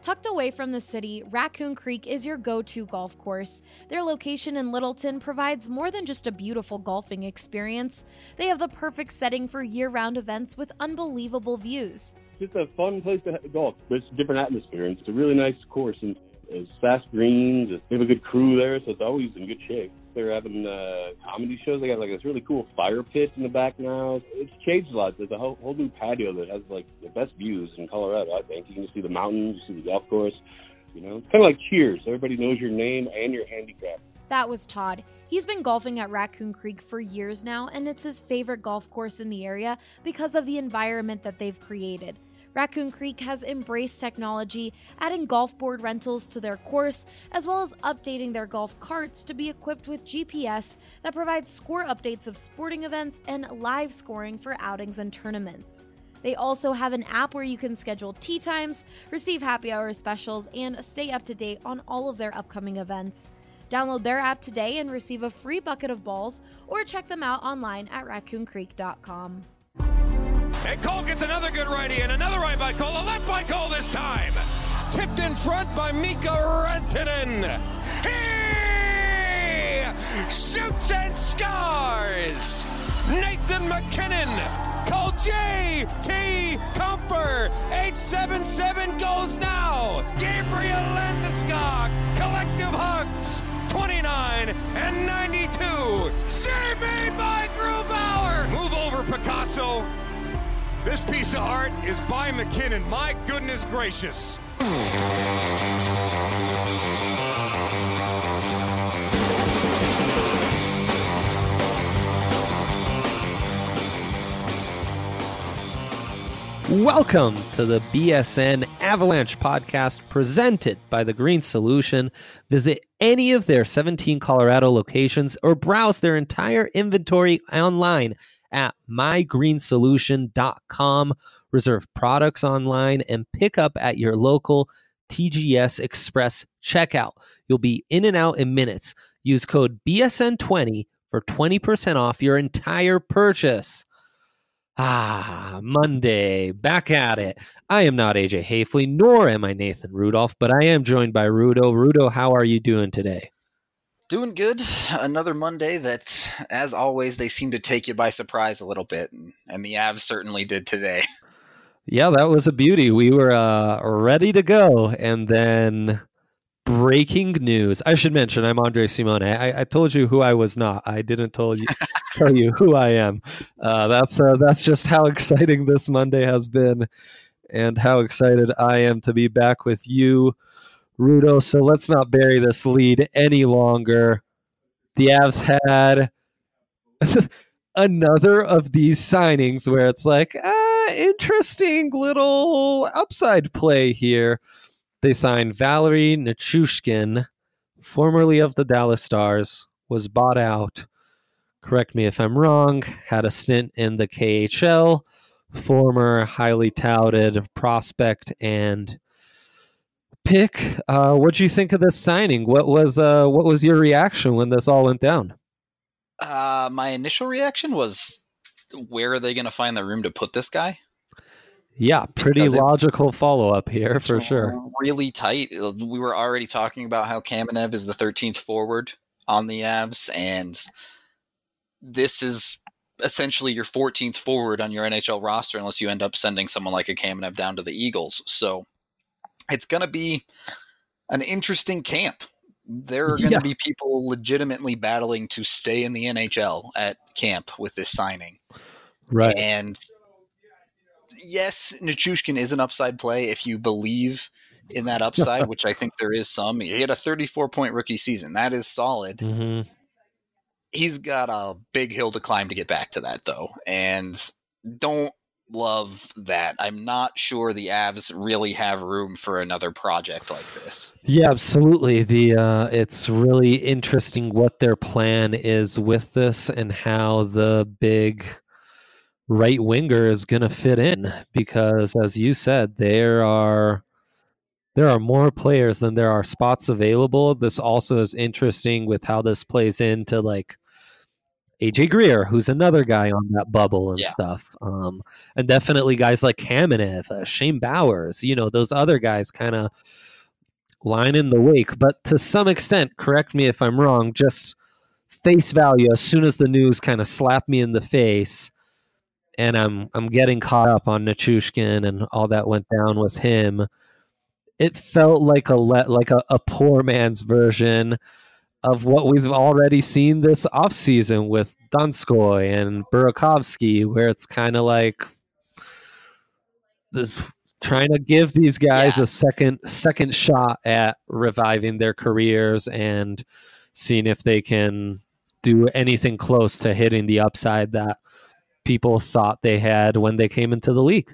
Tucked away from the city, Raccoon Creek is your go-to golf course. Their location in Littleton provides more than just a beautiful golfing experience. They have the perfect setting for year-round events with unbelievable views. It's just a fun place to golf. It's a different atmosphere, and it's a really nice course, and it's fast greens. They have a good crew there, so it's always in good shape. They're having comedy shows. They got like this really cool fire pit in the back now. It's changed a lot. There's a whole new patio that has like the best views in Colorado, I think. You can see the mountains, you see the golf course. You know, it's kind of like Cheers. Everybody knows your name and your handicap. That was Todd. He's been golfing at Raccoon Creek for years now, and it's his favorite golf course in the area because of the environment that they've created. Raccoon Creek has embraced technology, adding golf board rentals to their course, as well as updating their golf carts to be equipped with GPS that provides score updates of sporting events and live scoring for outings and tournaments. They also have an app where you can schedule tee times, receive happy hour specials, and stay up to date on all of their upcoming events. Download their app today and receive a free bucket of balls, or check them out online at raccooncreek.com. And Cole gets another good righty, and another right by Cole, a left by Cole this time. Tipped in front by Mika Rantanen. He shoots and scores. Nathan MacKinnon. Cole J.T. Comfer. 877 goes now. Gabriel Landeskog. Collective hugs. 29 and 92. Save made by Grubauer. Move over, Picasso. This piece of art is by McKinnon. My goodness gracious. Welcome to the BSN Avalanche podcast presented by The Green Solution. Visit any of their 17 Colorado locations or browse their entire inventory online at mygreensolution.com. Reserve products online and pick up at your local TGS Express checkout. You'll be in and out in minutes. Use code BSN20 for 20% off your entire purchase. Monday, back at it. I am not AJ Hafley, nor am I Nathan Rudolph, but I am joined by Rudo. Rudo, how are you doing today? Doing good. Another Monday that, as always, they seem to take you by surprise a little bit, and the Avs certainly did today. Yeah, that was a beauty. We were ready to go, and then breaking news. I should mention, I'm Andre Simone. I told you who I was not. I didn't tell you who I am. That's just how exciting this Monday has been, and how excited I am to be back with you, Rudo. So let's not bury this lead any longer. The Avs had another of these signings where it's like, interesting little upside play here. They signed Valeri Nichushkin, formerly of the Dallas Stars, was bought out. Correct me if I'm wrong, had a stint in the KHL, former highly touted prospect and pick. What do you think of this signing? What was your reaction when this all went down? My initial reaction was, where are they going to find the room to put this guy? Yeah, pretty logical follow-up here for sure. Really tight. We were already talking about how Kamenev is the 13th forward on the Avs, and this is essentially your 14th forward on your NHL roster unless you end up sending someone like a Kamenev down to the Eagles. So it's going to be an interesting camp. There are going to be people legitimately battling to stay in the NHL at camp with this signing. Right. And yes, Nichushkin is an upside play if you believe in that upside, which I think there is some. He had a 34-point rookie season. That is solid. Mm-hmm. He's got a big hill to climb to get back to that, though, and don't love that. I'm not sure the Avs really have room for another project like this. Yeah, absolutely. It's really interesting what their plan is with this and how the big right winger is going to fit in, because as you said, there are more players than there are spots available. This also is interesting with how this plays into like AJ Greer, who's another guy on that bubble and Yeah. stuff. And definitely guys like Kamenev, Shane Bowers, those other guys kind of line in the wake. But to some extent, correct me if I'm wrong, just face value, as soon as the news kind of slapped me in the face and I'm getting caught up on Nichushkin and all that went down with him, it felt like a poor man's version of what we've already seen this offseason with Donskoy and Burakovsky, where it's kind of like trying to give these guys a second shot at reviving their careers and seeing if they can do anything close to hitting the upside that people thought they had when they came into the league.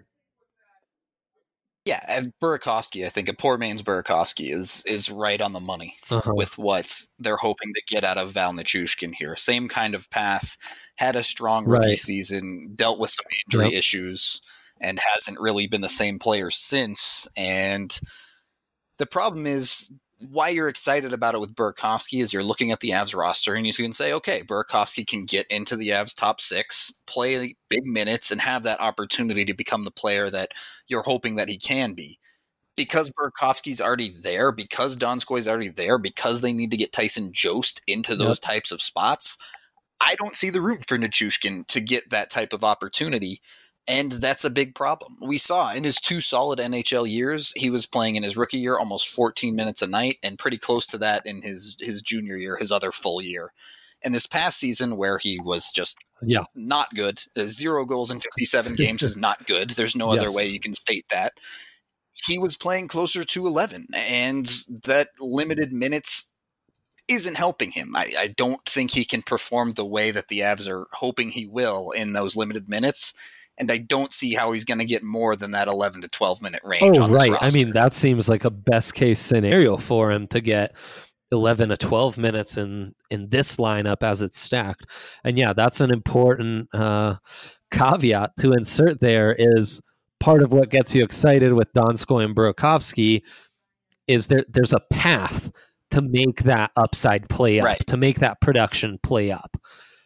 Yeah, and Burakovsky, I think a poor man's Burakovsky is right on the money with what they're hoping to get out of Val Nichushkin here. Same kind of path, had a strong rookie season, dealt with some injury issues, and hasn't really been the same player since. And the problem is, why you're excited about it with Burakovsky is you're looking at the Avs roster and you can say, okay, Burakovsky can get into the Avs top 6, play big minutes, and have that opportunity to become the player that you're hoping that he can be. Because Burakovsky's already there, because Donskoy's already there, because they need to get Tyson Jost into those types of spots, I don't see the room for Nichushkin to get that type of opportunity. And that's a big problem. We saw in his 2 solid NHL years, he was playing in his rookie year almost 14 minutes a night and pretty close to that in his junior year, his other full year. And this past season where he was just not good, 0 goals in 57 games is not good. There's no other way you can state that. He was playing closer to 11, and that limited minutes isn't helping him. I don't think he can perform the way that the Avs are hoping he will in those limited minutes. And I don't see how he's going to get more than that 11 to 12 minute range on this roster. I mean, that seems like a best case scenario for him to get 11 to 12 minutes in this lineup as it's stacked. And yeah, that's an important caveat to insert there. Is part of what gets you excited with Donskoy and Burakovsky is there's a path to make that upside play up, to make that production play up.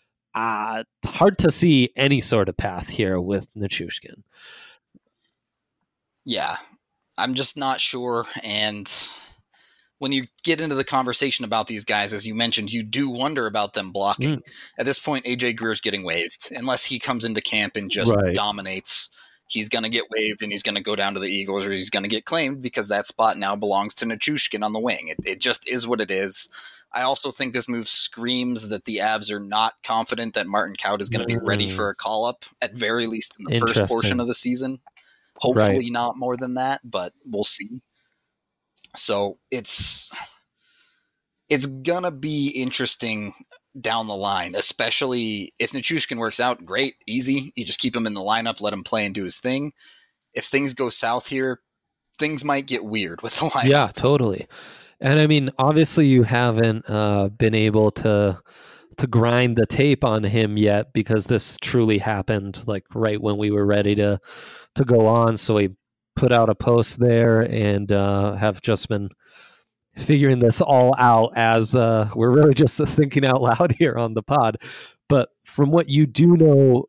Hard to see any sort of path here with Nichushkin. Yeah, I'm just not sure. And when you get into the conversation about these guys, as you mentioned, you do wonder about them blocking. At this point, AJ Greer's getting waived. Unless he comes into camp and just dominates, he's going to get waived and he's going to go down to the Eagles, or he's going to get claimed because that spot now belongs to Nichushkin on the wing. It just is what it is. I also think this move screams that the Avs are not confident that Martin Kaut is going to be ready for a call-up, at very least in the first portion of the season. Hopefully not more than that, but we'll see. So it's going to be interesting down the line, especially if Nichushkin works out, great, easy. You just keep him in the lineup, let him play and do his thing. If things go south here, things might get weird with the lineup. Yeah, totally. And I mean, obviously you haven't been able to grind the tape on him yet, because this truly happened like right when we were ready to go on. So we put out a post there and have just been figuring this all out as we're really just thinking out loud here on the pod. But from what you do know,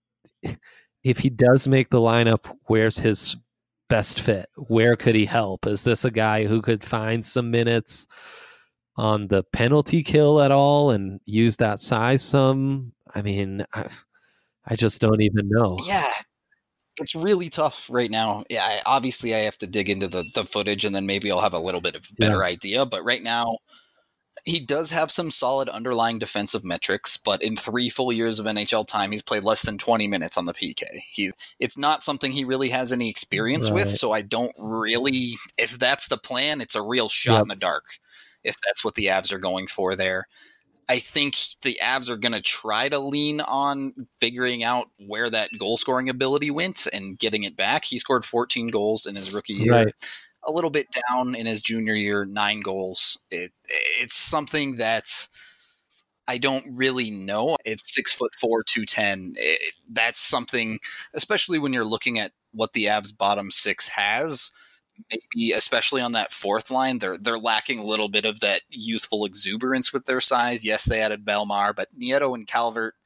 if he does make the lineup, where's his best fit? Where could he help? Is this a guy who could find some minutes on the penalty kill at all and use that size some? I mean, I just don't even know. Yeah, it's really tough right now. Yeah, obviously I have to dig into the footage and then maybe I'll have a little bit of a better idea. But right now, he does have some solid underlying defensive metrics, but in 3 full years of NHL time, he's played less than 20 minutes on the PK. It's not something he really has any experience with, so I don't really, if that's the plan, it's a real shot in the dark, if that's what the Avs are going for there. I think the Avs are going to try to lean on figuring out where that goal-scoring ability went and getting it back. He scored 14 goals in his rookie year. A little bit down in his junior year, 9 goals. It's something that I don't really know. It's 6'4", 210. That's something, especially when you're looking at what the Avs bottom 6 has, maybe especially on that fourth line, they're lacking a little bit of that youthful exuberance with their size. Yes, they added Belmar, but Nieto and Calvert,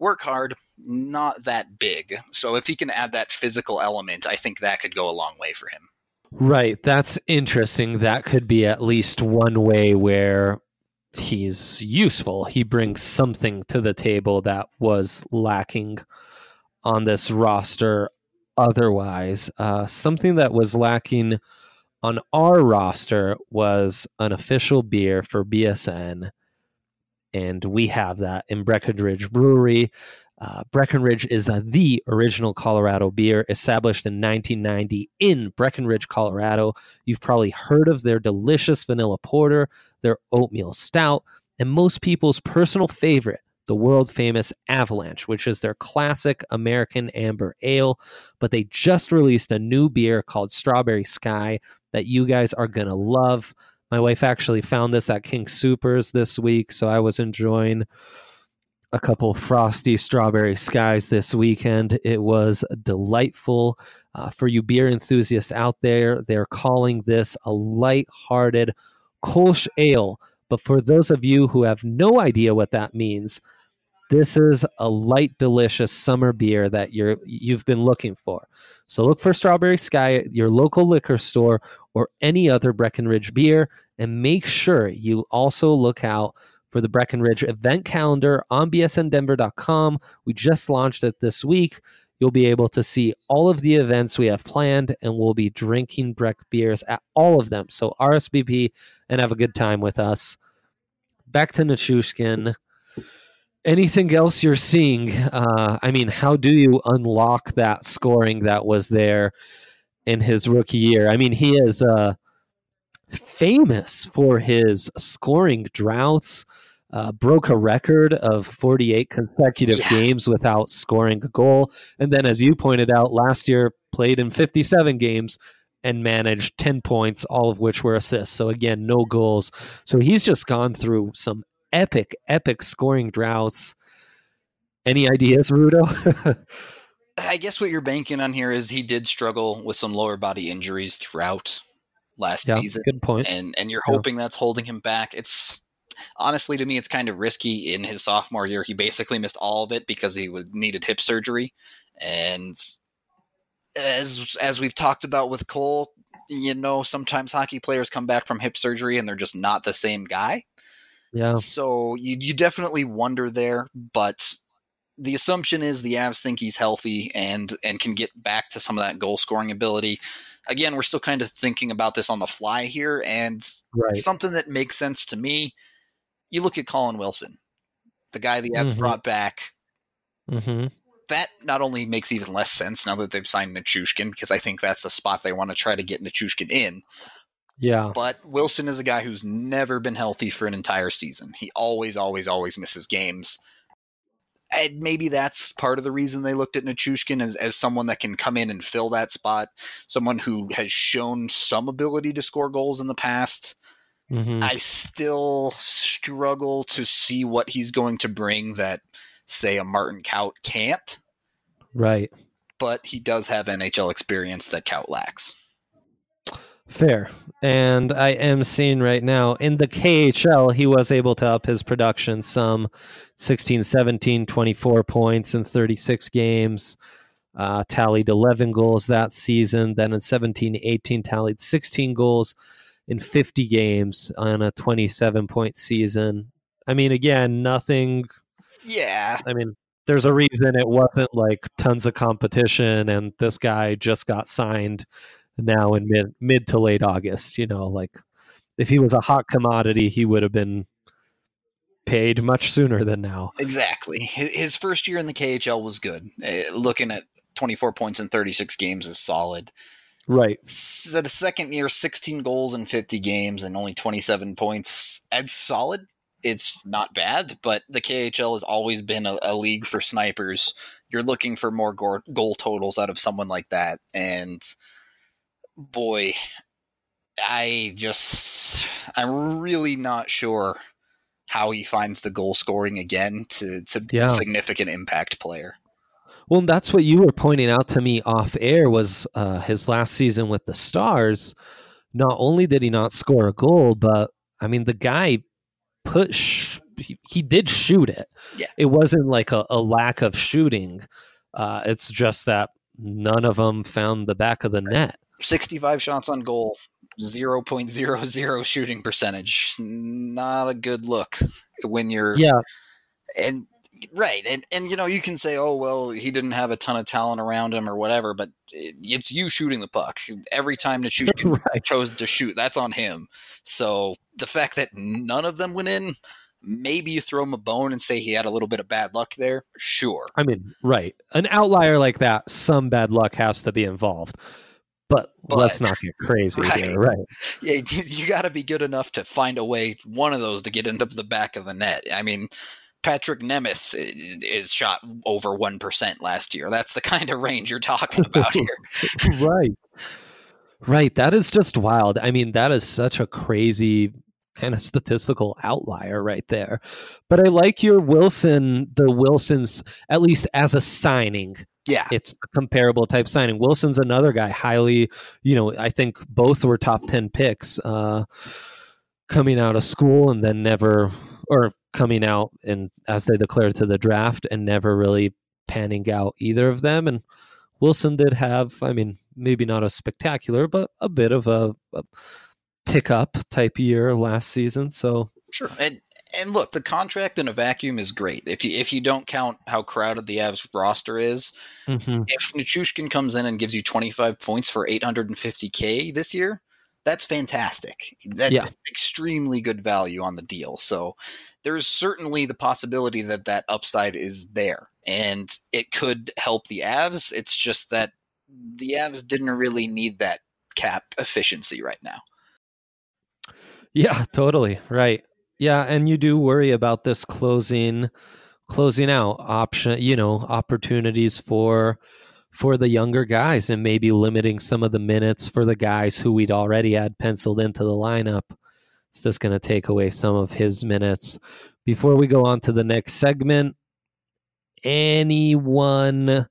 Work hard, not that big. So if he can add that physical element, I think that could go a long way for him. Right. That's interesting. That could be at least one way where he's useful. He brings something to the table that was lacking on this roster otherwise. Something that was lacking on our roster was an official beer for BSN, and we have that in Breckenridge Brewery. Breckenridge is the original Colorado beer, established in 1990 in Breckenridge, Colorado. You've probably heard of their delicious vanilla porter, their oatmeal stout, and most people's personal favorite, the world-famous Avalanche, which is their classic American amber ale. But they just released a new beer called Strawberry Sky that you guys are going to love. My wife actually found this at King Soopers this week, so I was enjoying a couple frosty Strawberry Skies this weekend. It was delightful. For you beer enthusiasts out there, they're calling this a light-hearted Kolsch ale. But for those of you who have no idea what that means, this is a light, delicious summer beer that you've been looking for. So look for Strawberry Sky at your local liquor store or any other Breckenridge beer, and make sure you also look out for the Breckenridge event calendar on bsndenver.com. We just launched it this week. You'll be able to see all of the events we have planned, and we'll be drinking Breck beers at all of them. So RSVP and have a good time with us. Back to Nichushkin. Anything else you're seeing? How do you unlock that scoring that was there in his rookie year? I mean, he is famous for his scoring droughts, broke a record of 48 consecutive games without scoring a goal. And then, as you pointed out, last year played in 57 games and managed 10 points, all of which were assists. So again, no goals. So he's just gone through some epic scoring droughts. Any ideas, Rudo? I guess what you're banking on here is he did struggle with some lower body injuries throughout last season. Good point. And you're hoping that's holding him back. It's honestly, to me, it's kind of risky. In his sophomore year, he basically missed all of it because he needed hip surgery. And as we've talked about with Cole, sometimes hockey players come back from hip surgery and they're just not the same guy. Yeah. So you definitely wonder there, but the assumption is the Avs think he's healthy and can get back to some of that goal scoring ability. Again, we're still kind of thinking about this on the fly here, and something that makes sense to me, you look at Colin Wilson, the guy the Avs brought back. Mm-hmm. That not only makes even less sense now that they've signed Nichushkin, because I think that's the spot they want to try to get Nichushkin in. Yeah. But Wilson is a guy who's never been healthy for an entire season. He always misses games. And maybe that's part of the reason they looked at Nichushkin as someone that can come in and fill that spot, someone who has shown some ability to score goals in the past. Mm-hmm. I still struggle to see what he's going to bring that, say, a Martin Kaut can't. Right. But he does have NHL experience that Kaut lacks. Fair. And I am seeing right now in the KHL, he was able to up his production some 16, 17, 24 points in 36 games, tallied 11 goals that season. Then in 17, 18, tallied 16 goals in 50 games on a 27-point season. I mean, again, nothing. Yeah. I mean, there's a reason it wasn't like tons of competition and this guy just got signed now in mid to late August. Like if he was a hot commodity, he would have been paid much sooner than now. Exactly. His first year in the KHL was good. Looking at 24 points in 36 games is solid. Right. So the second year, 16 goals in 50 games and only 27 points. It's solid. It's not bad, but the KHL has always been a league for snipers. You're looking for more goal totals out of someone like that. And boy, I'm really not sure how he finds the goal scoring again to be a significant impact player. Well, that's what you were pointing out to me off air was his last season with the Stars. Not only did he not score a goal, but I mean, the guy put he did shoot it. Yeah. It wasn't like a lack of shooting. It's just that none of them found the back of the net. 65 shots on goal, 0.00 shooting percentage. Not a good look when you're and right. And you know, you can say, oh well, he didn't have a ton of talent around him or whatever, but it's you shooting the puck. Every time Nichushkin chose to shoot, that's on him. So the fact that none of them went in, maybe you throw him a bone and say he had a little bit of bad luck there. Sure. I mean, right. An outlier like that, some bad luck has to be involved. But let's not get crazy here, right? Yeah, you got to be good enough to find a way, one of those, to get into the back of the net. I mean, Patrick Nemeth is shot over 1% last year. That's the kind of range you're talking about here. Right. That is just wild. I mean, that is such a crazy kind of statistical outlier right there. But I like your Wilson's, at least as a signing. Yeah. It's a comparable type signing. Wilson's another guy, highly, I think both were top 10 picks coming out of school and then coming out and as they declared to the draft and never really panning out either of them. And Wilson did have, I mean, maybe not a spectacular, but a bit of a tick up type year last season. So sure. And look, the contract in a vacuum is great. If you don't count how crowded the Avs roster is, if Nichushkin comes in and gives you 25 points for $850K this year, that's fantastic. That's extremely good value on the deal. So there's certainly the possibility that upside is there, and it could help the Avs. It's just that the Avs didn't really need that cap efficiency right now. Yeah, totally. Right. Yeah, and you do worry about this closing out option, opportunities for the younger guys and maybe limiting some of the minutes for the guys who we'd already had penciled into the lineup. It's just going to take away some of his minutes. Before we go on to the next segment, anyone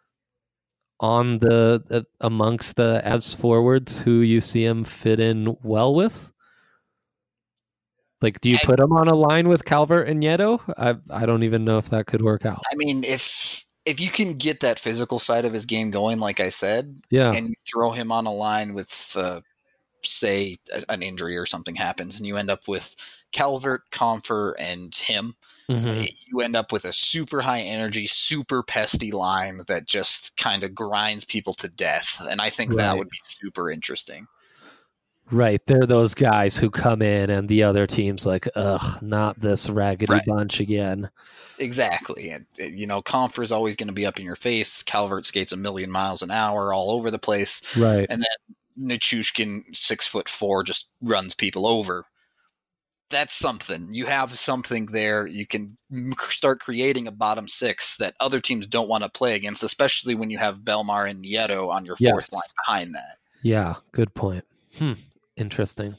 on amongst the Avs forwards who you see him fit in well with? Like, do you put him on a line with Calvert and Nieto? I don't even know if that could work out. I mean, if you can get that physical side of his game going, like I said, and you throw him on a line with, say, an injury or something happens, and you end up with Calvert, Compher, and him, you end up with a super high energy, super pesty line that just kind of grinds people to death. And I think that would be super interesting. Right. They're those guys who come in and the other team's like, ugh, not this raggedy bunch again. Exactly. And, Compher is always going to be up in your face. Calvert skates 1,000,000 miles an hour all over the place. Right. And then Nichushkin, 6'4", just runs people over. That's something. You have something there. You can start creating a bottom six that other teams don't want to play against, especially when you have Belmar and Nieto on your fourth line behind that. Yeah, good point. Interesting.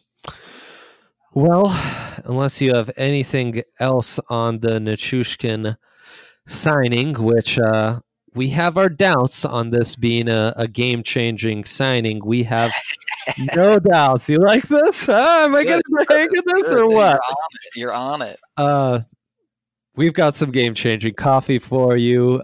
Well, unless you have anything else on the Nichushkin signing, which we have our doubts on this being a game-changing signing. We have no doubts. You like this? Am I getting the hang of this or what? You're on it. We've got some game-changing coffee for you.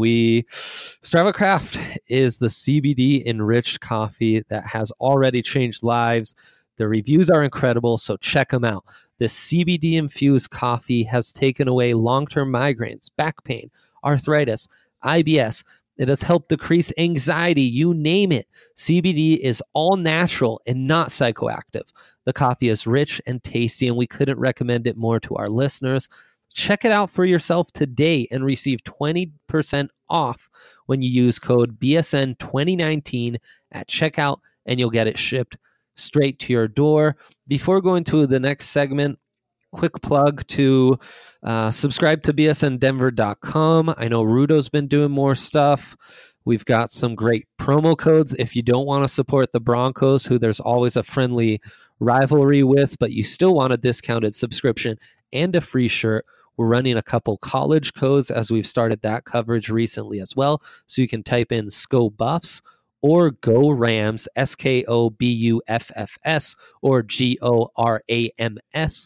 Strava Craft is the CBD-enriched coffee that has already changed lives. The reviews are incredible, so check them out. This CBD-infused coffee has taken away long-term migraines, back pain, arthritis, IBS. It has helped decrease anxiety, you name it. CBD is all natural and not psychoactive. The coffee is rich and tasty, and we couldn't recommend it more to our listeners. Check it out for yourself today and receive 20% off when you use code BSN2019 at checkout, and you'll get it shipped straight to your door. Before going to the next segment, quick plug to subscribe to bsndenver.com. I know Rudo's been doing more stuff. We've got some great promo codes if you don't want to support the Broncos, who there's always a friendly rivalry with, but you still want a discounted subscription and a free shirt. We're running a couple college codes as we've started that coverage recently as well. So you can type in SCO Buffs or Go Rams, SKOBUFFS, or GORAMS,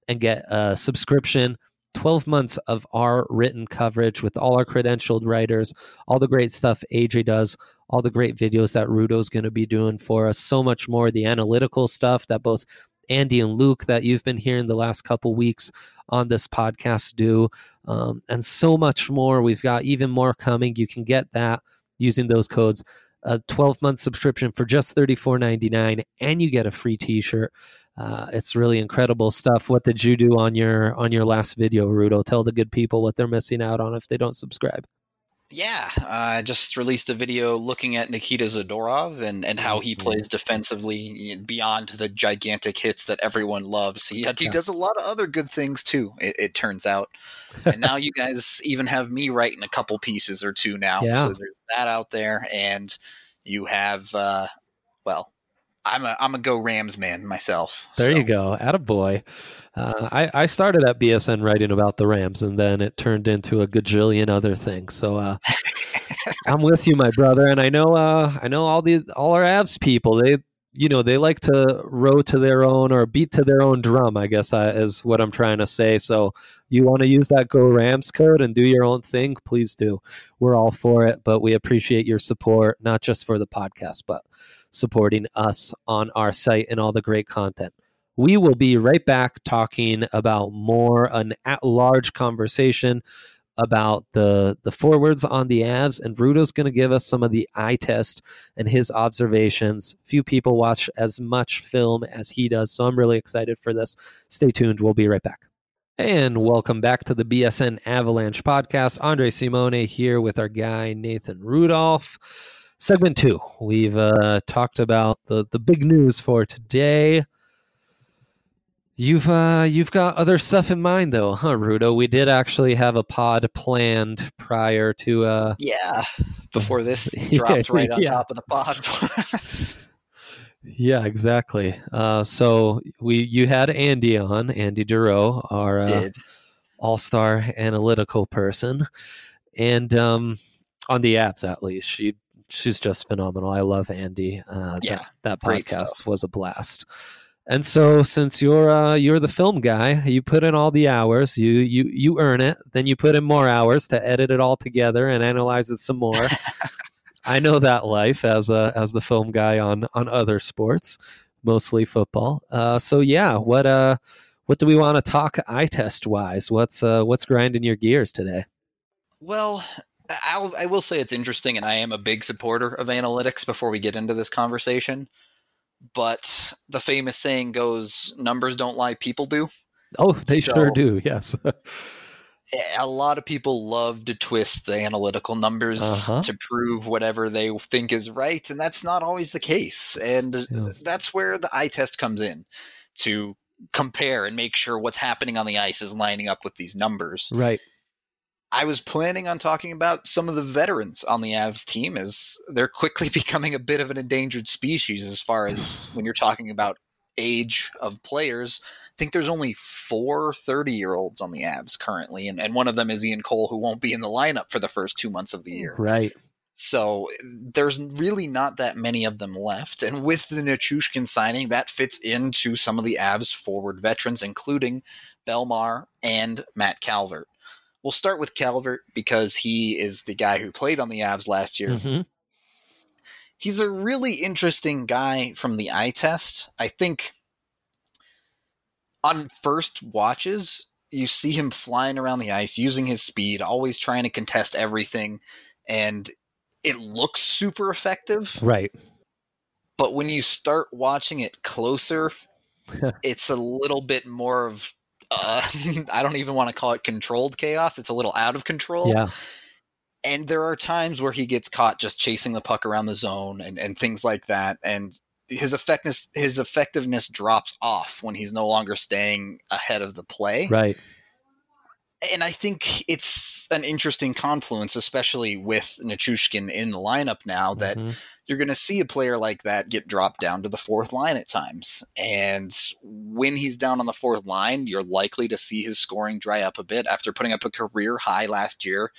and get a subscription. 12 months of our written coverage with all our credentialed writers, all the great stuff AJ does, all the great videos that Rudo's going to be doing for us, so much more, the analytical stuff that both Andy and Luke that you've been hearing the last couple weeks on this podcast do, and so much more. We've got even more coming. You can get that using those codes. A 12-month subscription for just $34.99, and you get a free t-shirt. It's really incredible stuff. What did you do on your last video, Rudo? Tell the good people what they're missing out on if they don't subscribe. Yeah, I just released a video looking at Nikita Zadorov and how he plays defensively beyond the gigantic hits that everyone loves. He does a lot of other good things too, it turns out. And now you guys even have me writing a couple pieces or two now. Yeah. So there's that out there. And you have, I'm a Go Rams man myself. There you go. Attaboy. I started at BSN writing about the Rams, and then it turned into a gajillion other things. So I'm with you, my brother. And I know all our Avs people. They like to row to their own or beat to their own drum, I guess is what I'm trying to say. So you want to use that Go Rams code and do your own thing, please do. We're all for it, but we appreciate your support, not just for the podcast, but supporting us on our site and all the great content. We will be right back talking about an at-large conversation about the forwards on the Avs, and Rudo's going to give us some of the eye test and his observations. Few people watch as much film as he does, so I'm really excited for this. Stay tuned. We'll be right back. And welcome back to the BSN Avalanche podcast. Andre Simone here with our guy Nathan Rudolph. Segment 2. We've talked about the big news for today. You've got other stuff in mind though, huh, Rudo? We did actually have a pod planned prior to before this dropped right on top of the pod. Yeah, exactly. So you had Andy on, Andy Duro, our all-star analytical person, and on the apps at least, she's just phenomenal. I love Andy. That podcast was a blast. And so, since you're the film guy, you put in all the hours. You earn it. Then you put in more hours to edit it all together and analyze it some more. I know that life as the film guy on other sports, mostly football. So yeah, what do we want to talk eye test wise? What's grinding your gears today? Well, I will say it's interesting, and I am a big supporter of analytics. Before we get into this conversation. But the famous saying goes, numbers don't lie, people do. Oh, they sure do, yes. A lot of people love to twist the analytical numbers to prove whatever they think is right, and that's not always the case. And that's where the eye test comes in, to compare and make sure what's happening on the ice is lining up with these numbers. Right. I was planning on talking about some of the veterans on the Avs team, as they're quickly becoming a bit of an endangered species as far as when you're talking about age of players. I think there's only 4 30-year-olds on the Avs currently, and one of them is Ian Cole, who won't be in the lineup for the first 2 months of the year. Right. So there's really not that many of them left. And with the Nichushkin signing, that fits into some of the Avs forward veterans, including Belmar and Matt Calvert. We'll start with Calvert because he is the guy who played on the Avs last year. Mm-hmm. He's a really interesting guy from the eye test. I think on first watches, you see him flying around the ice, using his speed, always trying to contest everything, and it looks super effective. Right. But when you start watching it closer, it's a little bit more of I don't even want to call it controlled chaos. It's a little out of control. Yeah. And there are times where he gets caught just chasing the puck around the zone and things like that. And his effectiveness drops off when he's no longer staying ahead of the play. Right. And I think it's an interesting confluence, especially with Nichushkin in the lineup now, that you're going to see a player like that get dropped down to the fourth line at times. And when he's down on the fourth line, you're likely to see his scoring dry up a bit after putting up a career high last year.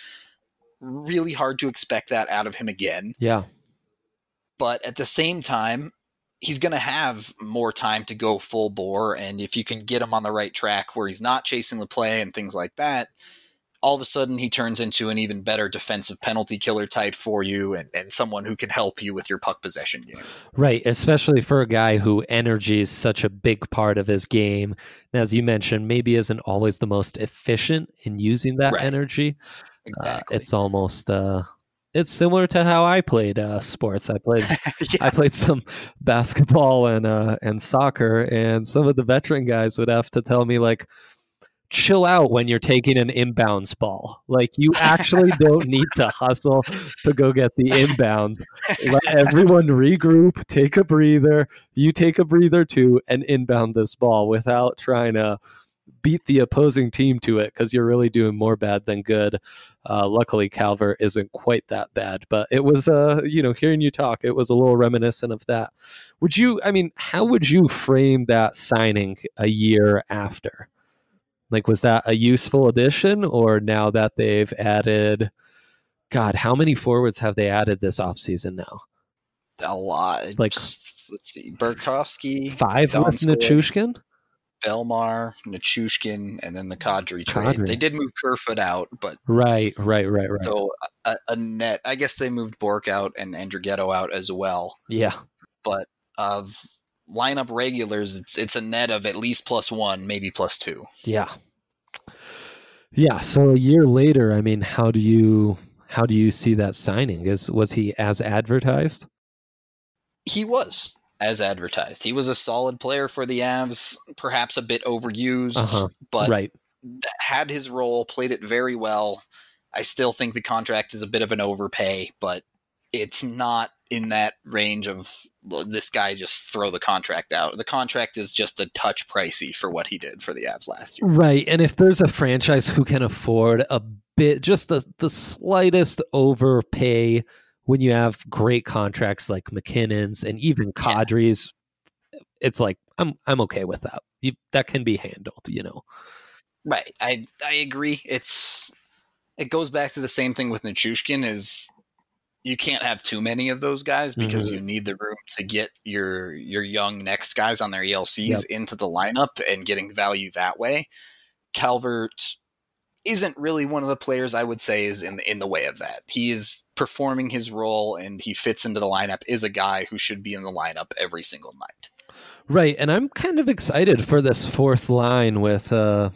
Really hard to expect that out of him again. Yeah. But at the same time, he's going to have more time to go full bore. And if you can get him on the right track where he's not chasing the play and things like that, all of a sudden he turns into an even better defensive penalty killer type for you and someone who can help you with your puck possession game. Right, especially for a guy who energy is such a big part of his game. And as you mentioned, maybe isn't always the most efficient in using that energy. Exactly. It's almost it's similar to how I played sports. I played some basketball and soccer, and some of the veteran guys would have to tell me, like, chill out when you're taking an inbounds ball. Like, you actually don't need to hustle to go get the inbounds. Let everyone regroup, take a breather. You take a breather too, and inbound this ball without trying to beat the opposing team to it, because you're really doing more bad than good. Luckily, Calvert isn't quite that bad, but it was, hearing you talk, it was a little reminiscent of that. How would you frame that signing a year after? Like, was that a useful addition, or now that they've added, God, how many forwards have they added this offseason now? A lot. Like, let's see, Burakovsky, 5 with Nichushkin? Belmar, Nichushkin, and then the Kadri trade. They did move Kerfoot out, but right. So a net. I guess they moved Bork out and Andrighetto out as well. Yeah, but of lineup regulars, it's a net of at least +1, maybe +2. Yeah. So a year later, how do you see that signing? Was he as advertised? He was as advertised. He was a solid player for the Avs, perhaps a bit overused, but had his role, played it very well. I still think the contract is a bit of an overpay, but it's not in that range of this guy just throw the contract out. The contract is just a touch pricey for what he did for the Avs last year. Right. And if there's a franchise who can afford a bit, just the slightest overpay when you have great contracts like McKinnon's and even Kadri's, it's like, I'm okay with that. That can be handled, Right. I agree. It goes back to the same thing with Nichushkin is, you can't have too many of those guys because you need the room to get your young next guys on their ELCs into the lineup and getting value that way. Calvert isn't really one of the players I would say is in the way of that. He is performing his role and he fits into the lineup, is a guy who should be in the lineup every single night. Right. And I'm kind of excited for this fourth line with,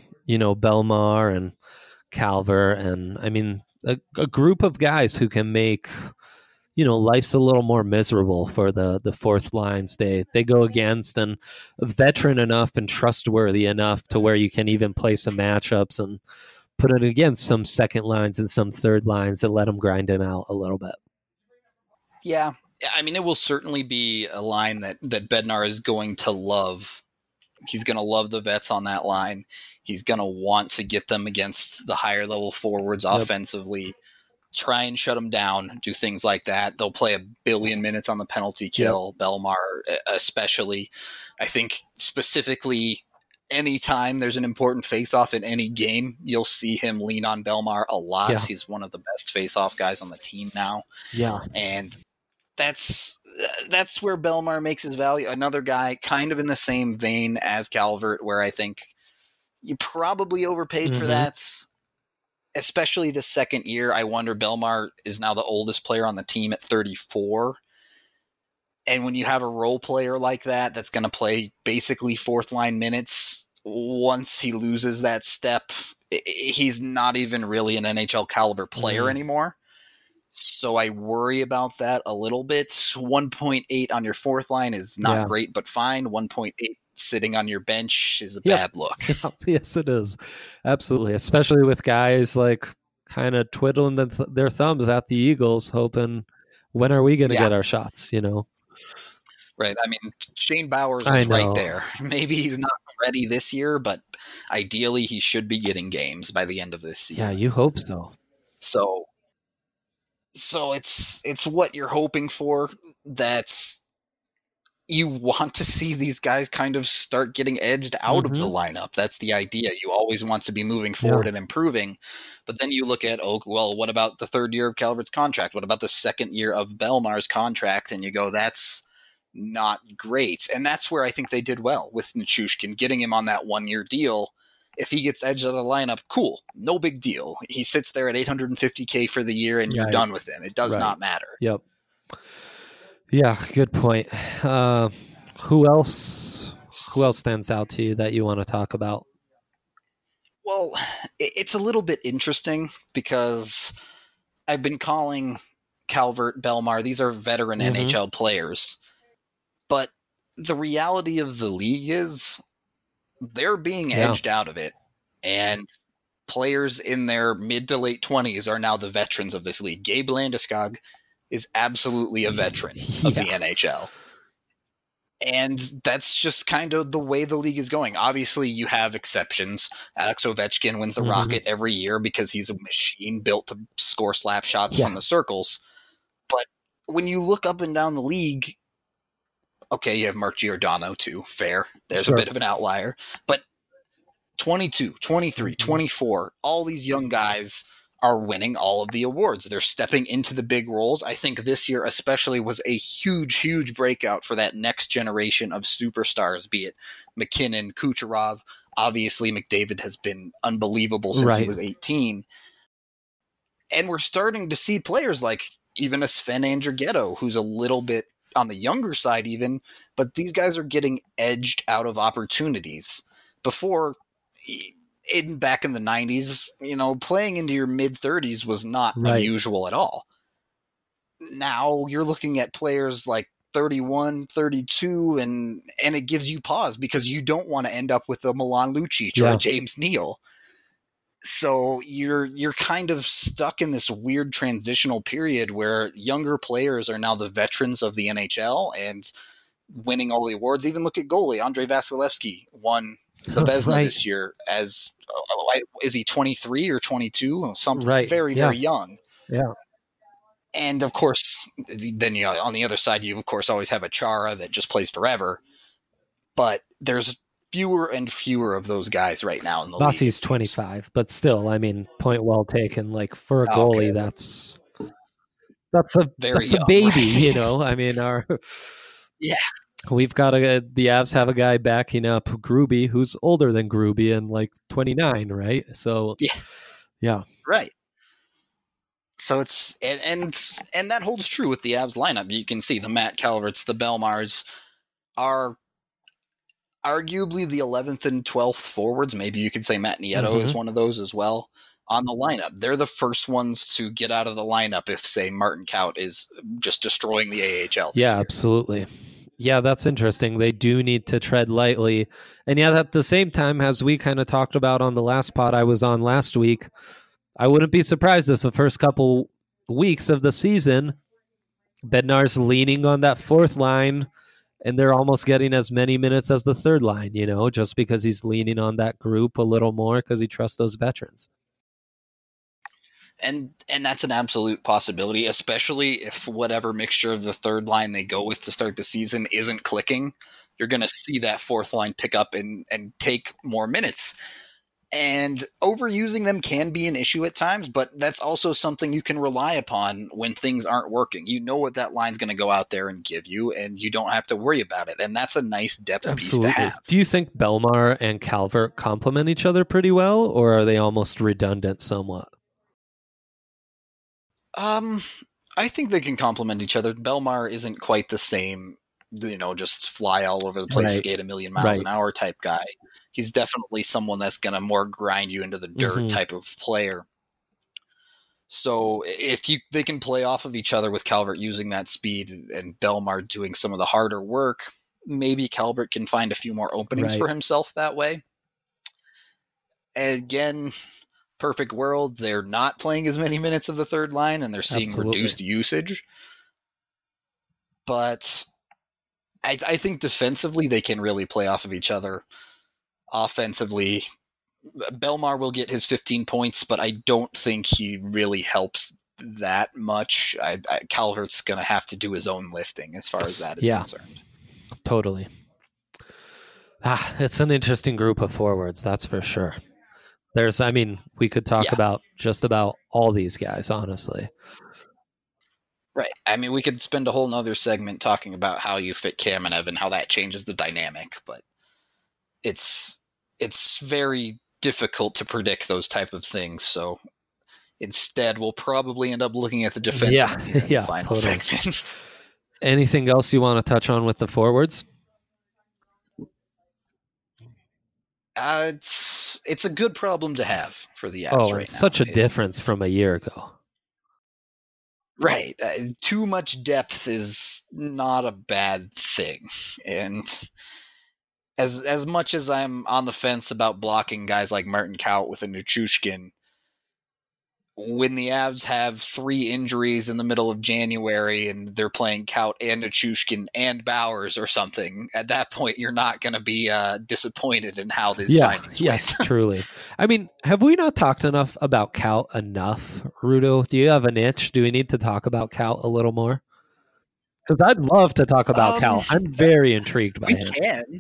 Belmar and Calvert, and a group of guys who can make, life's a little more miserable for the fourth lines they go against, and veteran enough and trustworthy enough to where you can even play some matchups and put it against some second lines and some third lines and let them grind him out a little bit. Yeah. It will certainly be a line that Bednar is going to love. He's going to love the vets on that line. He's going to want to get them against the higher level forwards offensively, try and shut them down, do things like that. They'll play 1 billion minutes on the penalty kill, Belmar especially. I think specifically anytime there's an important face-off in any game, you'll see him lean on Belmar a lot. Yeah. He's one of the best face-off guys on the team now. Yeah. And that's where Belmar makes his value. Another guy kind of in the same vein as Calvert, where I think you probably overpaid for that. Especially the second year. I wonder, Belmar is now the oldest player on the team at 34. And when you have a role player like that, that's going to play basically fourth line minutes, once he loses that step, he's not even really an NHL caliber player anymore. So I worry about that a little bit. 1.8 on your fourth line is not great, but fine. 1.8 sitting on your bench is a bad look. Yes, it is. Absolutely. Especially with guys like kind of twiddling their thumbs at the Eagles, hoping, when are we going to get our shots, Right. Shane Bowers is right there. Maybe he's not ready this year, but ideally he should be getting games by the end of this season. Yeah, you hope so. So it's what you're hoping for. That's, you want to see these guys kind of start getting edged out of the lineup. That's the idea. You always want to be moving forward and improving. But then you look at, what about the third year of Calvert's contract? What about the second year of Belmar's contract? And you go, that's not great. And that's where I think they did well with Nichushkin, getting him on that 1-year deal. If he gets edged out of the lineup, cool, no big deal. He sits there at $850K for the year, and you're done with him. It does not matter. Yep. Yeah, good point. Who else stands out to you that you want to talk about? Well, it's a little bit interesting because I've been calling Calvert, Belmar, these are veteran NHL players. But the reality of the league is they're being edged out of it. And players in their mid to late 20s are now the veterans of this league. Gabe Landeskog is absolutely a veteran of the NHL. And that's just kind of the way the league is going. Obviously, you have exceptions. Alex Ovechkin wins the Rocket every year because he's a machine built to score slap shots from the circles. But when you look up and down the league, okay, you have Mark Giordano too. Fair. There's a bit of an outlier. But 22, 23, 24, all these young guys are winning all of the awards. They're stepping into the big roles. I think this year especially was a huge, huge breakout for that next generation of superstars, be it McKinnon, Kucherov. Obviously, McDavid has been unbelievable since he was 18. And we're starting to see players like even a Sven Andrighetto, who's a little bit on the younger side even, but these guys are getting edged out of opportunities. Before, back in the 90s, playing into your mid-30s was not unusual at all. Now you're looking at players like 31, 32, and it gives you pause because you don't want to end up with a Milan Lucic or a James Neal. So you're kind of stuck in this weird transitional period where younger players are now the veterans of the NHL and winning all the awards. Even look at goalie Andrei Vasilevsky won the Vezina this year as is he 23 or 22? Something very young. Yeah. And of course, then on the other side, you of course always have a Chara that just plays forever. But there's fewer and fewer of those guys right now in the league. Vasi's 25, but still, I mean, point well taken. Like for a goalie, that's a baby, I mean, we've got the Avs have a guy backing up Gruby who's older than Gruby and like 29, right? So yeah, right. So it's and that holds true with the Avs lineup. You can see the Matt Calverts, the Belmars are arguably the 11th and 12th forwards. Maybe you could say Matt Nieto is one of those as well on the lineup. They're the first ones to get out of the lineup if, say, Martin Kaut is just destroying the AHL. Yeah, absolutely. Yeah, that's interesting. They do need to tread lightly. And yet at the same time, as we kind of talked about on the last pod I was on last week, I wouldn't be surprised if the first couple weeks of the season, Bednar's leaning on that fourth line, and they're almost getting as many minutes as the third line, just because he's leaning on that group a little more because he trusts those veterans. And that's an absolute possibility, especially if whatever mixture of the third line they go with to start the season isn't clicking. You're going to see that fourth line pick up and take more minutes. And overusing them can be an issue at times, but that's also something you can rely upon when things aren't working. You know what that line's going to go out there and give you, and you don't have to worry about it. And that's a nice depth piece to have. Do you think Belmar and Calvert complement each other pretty well, or are they almost redundant somewhat? I think they can complement each other. Belmar isn't quite the same, just fly all over the place, skate a million miles an hour type guy. He's definitely someone that's going to more grind you into the dirt type of player. So if they can play off of each other with Calvert using that speed and Belmar doing some of the harder work, maybe Calvert can find a few more openings for himself that way. Again, perfect world, they're not playing as many minutes of the third line and they're seeing reduced usage. But I think defensively they can really play off of each other. Offensively, Belmar will get his 15 points, but I don't think he really helps that much. Calvert's going to have to do his own lifting as far as that is concerned. Totally. It's an interesting group of forwards, that's for sure. We could talk about just about all these guys, honestly. Right. I mean, we could spend a whole nother segment talking about how you fit Kamenev and how that changes the dynamic, but it's very difficult to predict those type of things. So instead, we'll probably end up looking at the defensemen here in the final segment. Anything else you want to touch on with the forwards? It's a good problem to have for the Avs right now. It's such a difference from a year ago. Right. Too much depth is not a bad thing. And as much as I'm on the fence about blocking guys like Martin Kaut with a Nichushkin, when the Avs have 3 injuries in the middle of January and they're playing Kaut and Nichushkin and Bowers or something, at that point you're not going to be disappointed in how this signings Yes, truly. I mean, have we not talked enough about Kaut enough, Rudo? Do you have an itch? Do we need to talk about Kaut a little more? Because I'd love to talk about Kaut. I'm very intrigued by him.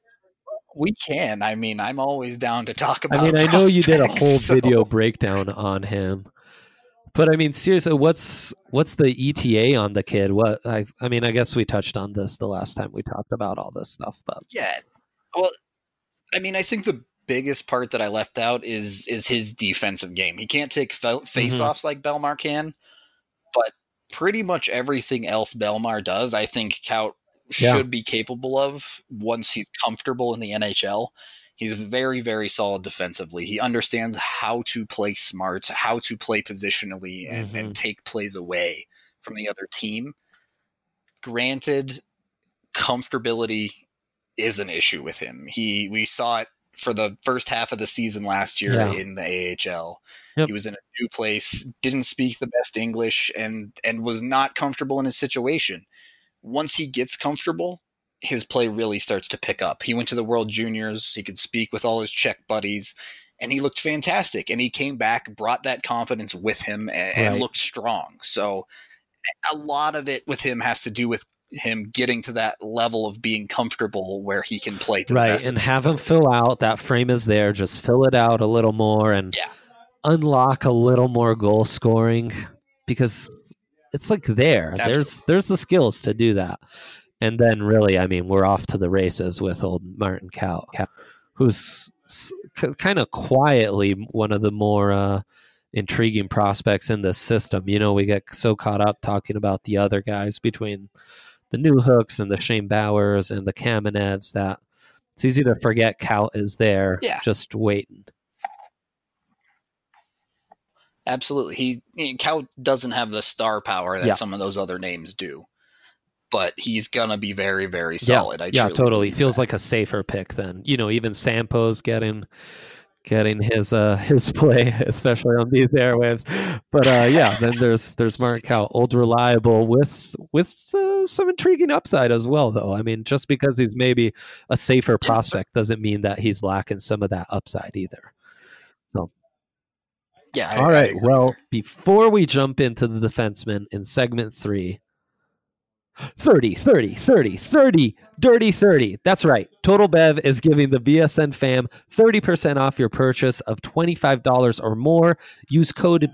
We can. I mean, I'm always down to talk about. I mean, I know you did a whole video breakdown on him, but I mean, seriously, what's the ETA on the kid? I mean, I guess we touched on this the last time we talked about all this stuff, but yeah. Well, I mean, I think the biggest part that I left out is his defensive game. He can't take face-offs like Belmar can, but pretty much everything else Belmar does, I think Kaut should be capable of once he's comfortable in the NHL. He's very, very solid defensively. He understands how to play smart, how to play positionally, and take plays away from the other team. Granted, comfortability is an issue with him. We saw it for the first half of the season last year in the AHL. Yep. He was in a new place, didn't speak the best English, and was not comfortable in his situation. Once he gets comfortable, his play really starts to pick up. He went to the World Juniors. He could speak with all his Czech buddies, and he looked fantastic. And he came back, brought that confidence with him, and looked strong. So a lot of it with him has to do with him getting to that level of being comfortable where he can play to the best. And have him fill out. That frame is there. Just fill it out a little more and unlock a little more goal scoring, because it's like there. There's the skills to do that. And then really, I mean, we're off to the races with old Martin Kaut, who's kind of quietly one of the more intriguing prospects in this system. You know, we get so caught up talking about the other guys between the New Hooks and the Shane Bowers and the Kamenevs that it's easy to forget Kaut is there just waiting. Absolutely. Kaut doesn't have the star power that some of those other names do, but he's going to be very, very solid. Yeah, totally. Feels like a safer pick than, you know, even Sampo's getting his play, especially on these airwaves. But then there's Martin Kaut, old reliable with some intriguing upside as well, though. I mean, just because he's maybe a safer prospect doesn't mean that he's lacking some of that upside either. So. Yeah. All right. Well, before we jump into the defenseman in segment 3, 30, dirty 30. That's right. Total Bev is giving the BSN fam 30% off your purchase of $25 or more. Use code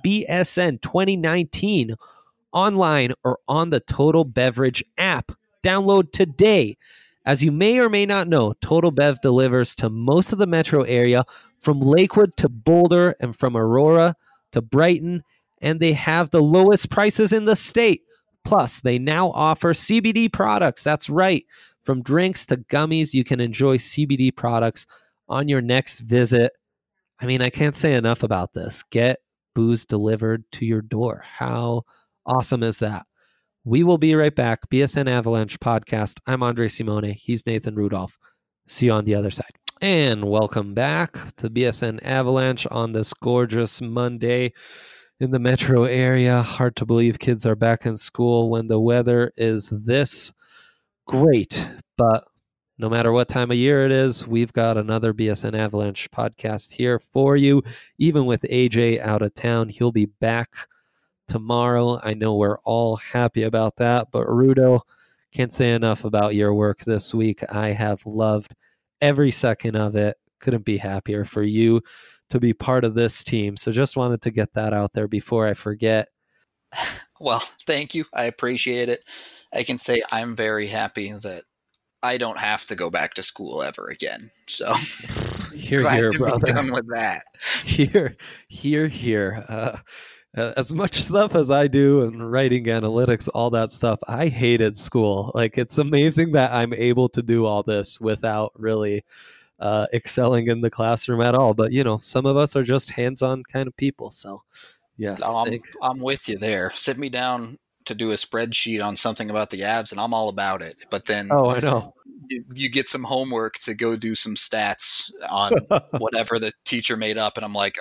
BSN2019 online or on the Total Beverage app. Download today. As you may or may not know, Total Bev delivers to most of the metro area, from Lakewood to Boulder and from Aurora to Brighton, and they have the lowest prices in the state. Plus, they now offer CBD products. That's right. From drinks to gummies, you can enjoy CBD products on your next visit. I mean, I can't say enough about this. Get booze delivered to your door. How awesome is that? We will be right back. BSN Avalanche podcast. I'm Andre Simone. He's Nathan Rudolph. See you on the other side. And welcome back to BSN Avalanche on this gorgeous Monday in the metro area. Hard to believe kids are back in school when the weather is this great. But no matter what time of year it is, we've got another BSN Avalanche podcast here for you. Even with AJ out of town, he'll be back tomorrow. I know we're all happy about that. But Rudo, can't say enough about your work this week. I have loved every second of it. Couldn't be happier for you to be part of this team. So just wanted to get that out there before I forget. Well, thank you. I appreciate it. I can say I'm very happy that I don't have to go back to school ever again. So Here, glad here, to be brother. done with that. Here, here. As much stuff as I do and writing analytics, all that stuff, I hated school. Like, it's amazing that I'm able to do all this without really excelling in the classroom at all. But, some of us are just hands-on kind of people. So, yes. I'm with you there. Sit me down to do a spreadsheet on something about the Avs, and I'm all about it. But then Oh, I know. you get some homework to go do some stats on whatever the teacher made up, and I'm like,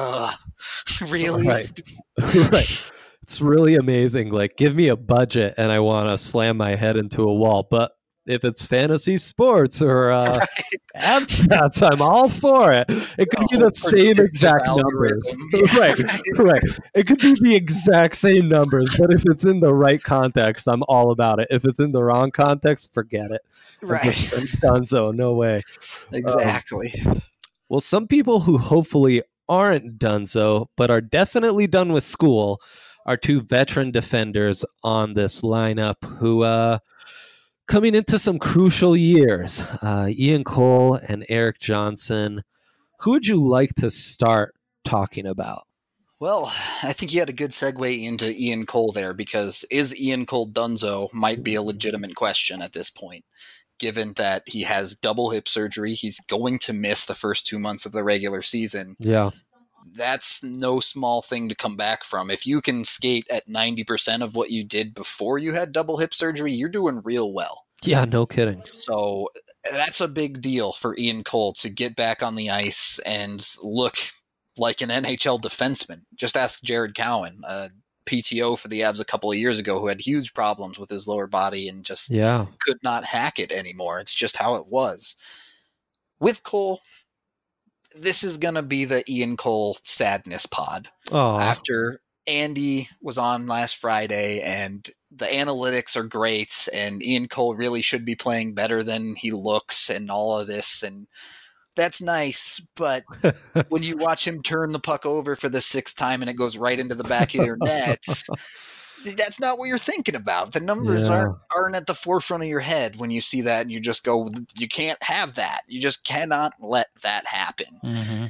really? Right. Right. It's really amazing. Like, give me a budget and I want to slam my head into a wall. But if it's fantasy sports or abs stats, I'm all for it. It could be the same exact numbers. Right. It could be the exact same numbers, but if it's in the right context, I'm all about it. If it's in the wrong context, forget it. Right. I'm done. So no way. Exactly. Well, some people who hopefully aren't done so, but are definitely done with school, are two veteran defenders on this lineup who coming into some crucial years. Ian Cole and Eric Johnson. Who would you like to start talking about? Well, I think you had a good segue into Ian Cole there, because is Ian Cole donezo might be a legitimate question at this point, given that he has double hip surgery. He's going to miss the first 2 months of the regular season. Yeah. That's no small thing to come back from. If you can skate at 90% of what you did before you had double hip surgery, you're doing real well. Yeah, no kidding. So that's a big deal for Ian Cole to get back on the ice and look like an NHL defenseman. Just ask Jared Cowan, PTO for the Avs a couple of years ago, who had huge problems with his lower body and just could not hack it anymore. It's just how it was. With Cole, this is going to be the Ian Cole sadness pod. Aww. After Andy was on last Friday and the analytics are great and Ian Cole really should be playing better than he looks and all of this, and that's nice, but when you watch him turn the puck over for the 6th time and it goes right into the back of your net, that's not what you're thinking about. The numbers aren't at the forefront of your head when you see that, and you just go, you can't have that. You just cannot let that happen. Mm-hmm.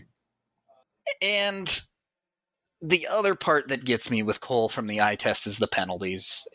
And the other part that gets me with Cole from the eye test is the penalties.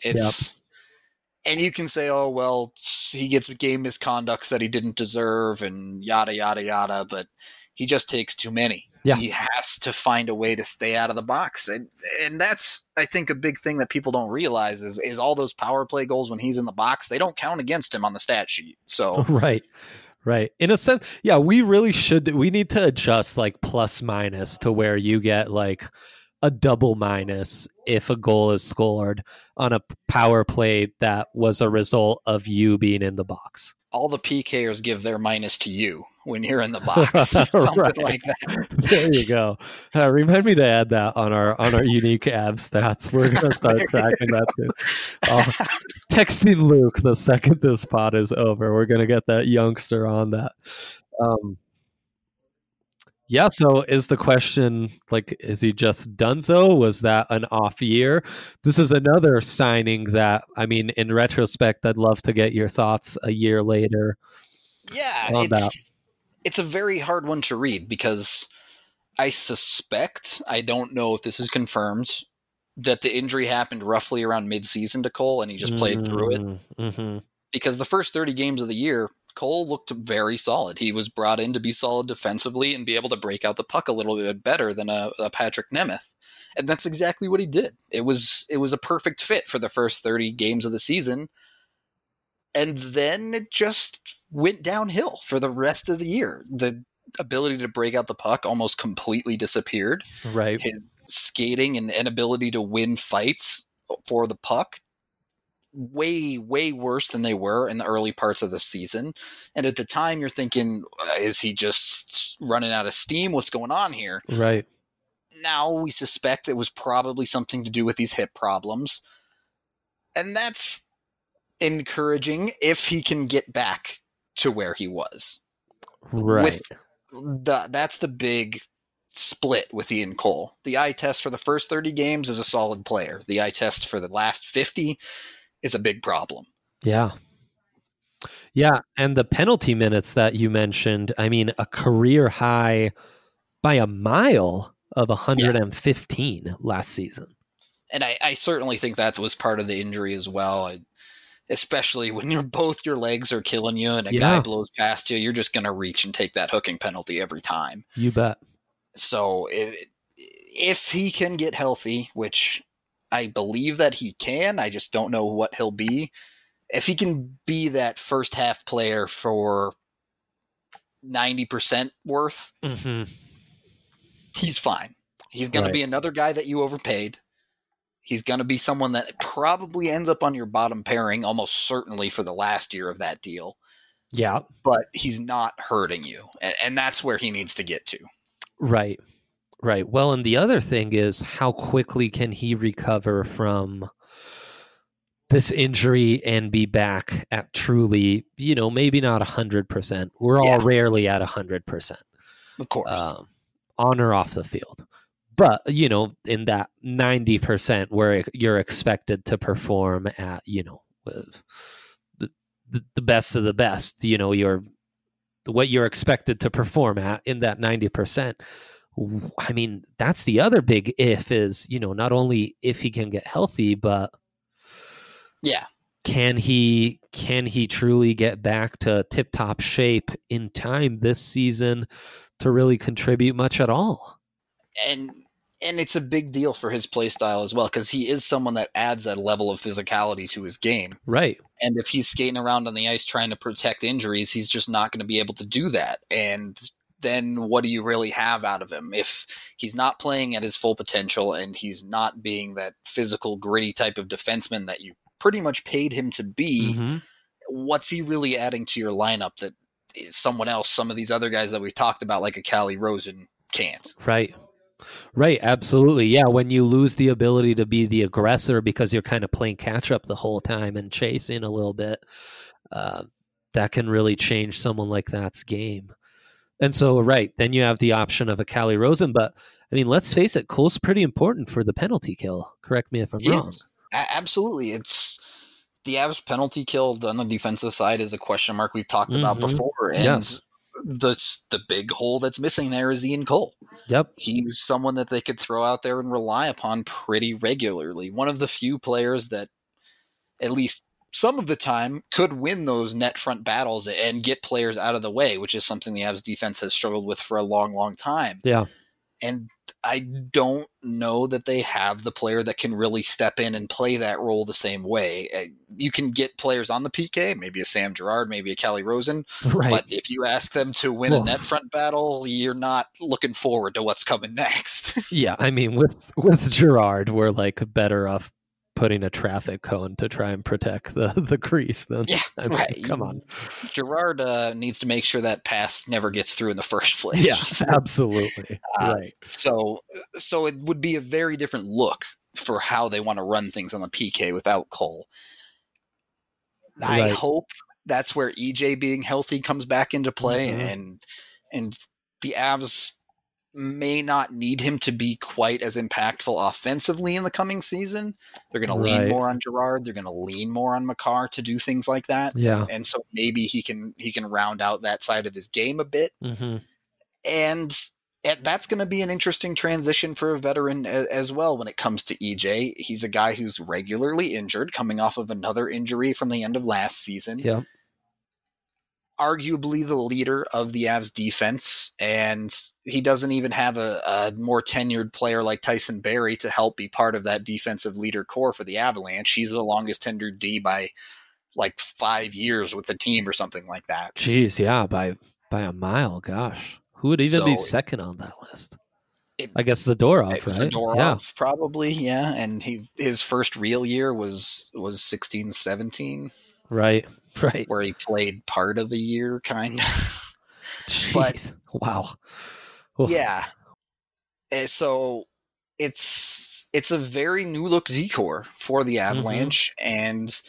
And you can say, oh, well, he gets game misconducts that he didn't deserve and yada, yada, yada, but he just takes too many. Yeah. He has to find a way to stay out of the box. And that's, I think, a big thing that people don't realize is all those power play goals when he's in the box, they don't count against him on the stat sheet. So Right. In a sense, yeah, we need to adjust like plus minus to where you get like a double minus if a goal is scored on a power play that was a result of you being in the box. All the PKers give their minus to you when you're in the box. Something like that. There you go. Remind me to add that on our unique ab stats. We're going to start tracking that too. Texting Luke the second this pod is over. We're going to get that youngster on that. Yeah, so is the question, like, is he just donezo? Was that an off year? This is another signing that, I mean, in retrospect, I'd love to get your thoughts a year later. Yeah, it's a very hard one to read because I suspect, I don't know if this is confirmed, that the injury happened roughly around mid-season to Cole and he just played through it. Mm-hmm. Because the first 30 games of the year, Cole looked very solid. He was brought in to be solid defensively and be able to break out the puck a little bit better than a Patrick Nemeth. And that's exactly what he did. It was a perfect fit for the first 30 games of the season. And then it just went downhill for the rest of the year. The ability to break out the puck almost completely disappeared. Right. His skating and inability to win fights for the puck, way, way worse than they were in the early parts of the season. And at the time you're thinking, is he just running out of steam? What's going on here? Right. Now we suspect it was probably something to do with these hip problems. And that's encouraging if he can get back to where he was. Right. That's the big split with Ian Cole. The eye test for the first 30 games is a solid player. The eye test for the last 50 is a big problem. Yeah. Yeah, and the penalty minutes that you mentioned, I mean, a career high by a mile of 115 last season. And I certainly think that was part of the injury as well. Especially when both your legs are killing you and a guy blows past you, you're just going to reach and take that hooking penalty every time. You bet. So if he can get healthy, which I believe that he can, I just don't know what he'll be. If he can be that first half player for 90% worth, he's fine. He's going to be another guy that you overpaid. He's going to be someone that probably ends up on your bottom pairing almost certainly for the last year of that deal. Yeah. But he's not hurting you. And that's where he needs to get to. Right. Right. Well, and the other thing is, how quickly can he recover from this injury and be back at truly, maybe not 100%. We're all rarely at 100%. Of course. On or off the field. But, in that 90% where you're expected to perform at, the best of the best, what you're expected to perform at in that 90%. I mean, that's the other big if is, not only if he can get healthy, but can he truly get back to tip-top shape in time this season to really contribute much at all? And it's a big deal for his play style as well, because he is someone that adds that level of physicality to his game. Right. And if he's skating around on the ice trying to protect injuries, he's just not going to be able to do that. And then what do you really have out of him? If he's not playing at his full potential and he's not being that physical, gritty type of defenseman that you pretty much paid him to be, what's he really adding to your lineup that someone else, some of these other guys that we've talked about, like a Calle Rosen, can't? Right. Right, absolutely. Yeah, when you lose the ability to be the aggressor because you're kind of playing catch up the whole time and chasing a little bit, that can really change someone like that's game. And so, right, then you have the option of a Calle Rosen, but I mean, let's face it, Cole's pretty important for the penalty kill. Correct me if I'm wrong. Absolutely. It's the Avs penalty kill on the defensive side is a question mark we've talked about before. And the big hole that's missing there is Ian Cole. Yep. He's someone that they could throw out there and rely upon pretty regularly. One of the few players that, at least some of the time, could win those net front battles and get players out of the way, which is something the Avs defense has struggled with for a long, long time. Yeah. And I don't know that they have the player that can really step in and play that role the same way. You can get players on the PK, maybe a Sam Girard, maybe a Calle Rosen, but if you ask them to win a net front battle, you're not looking forward to what's coming next. Yeah, I mean, with Girard, we're like better off putting a traffic cone to try and protect the crease. Then, come on. Girard needs to make sure that pass never gets through in the first place. Yeah, absolutely. Right. So it would be a very different look for how they want to run things on the PK without Cole. I hope that's where EJ being healthy comes back into play, and the Avs may not need him to be quite as impactful offensively in the coming season. They're going to lean more on Girard. They're going to lean more on Makar to do things like that. Yeah. And so maybe he can round out that side of his game a bit. And that's going to be an interesting transition for a veteran as well when it comes to EJ. He's a guy who's regularly injured, coming off of another injury from the end of last season. Yeah. Arguably the leader of the Avs defense, and he doesn't even have a more tenured player like Tyson Barrie to help be part of that defensive leader core for the Avalanche. He's the longest tenured D by like 5 years with the team or something like that. Jeez, yeah, by a mile. Gosh, who would even be second on that list? I guess Zadorov, right? Zadorov, probably, yeah. And his first real year was 16-17. Right. Where he played part of the year, kind of. Jeez. Wow. Yeah. So it's a very new look decor for the Avalanche, and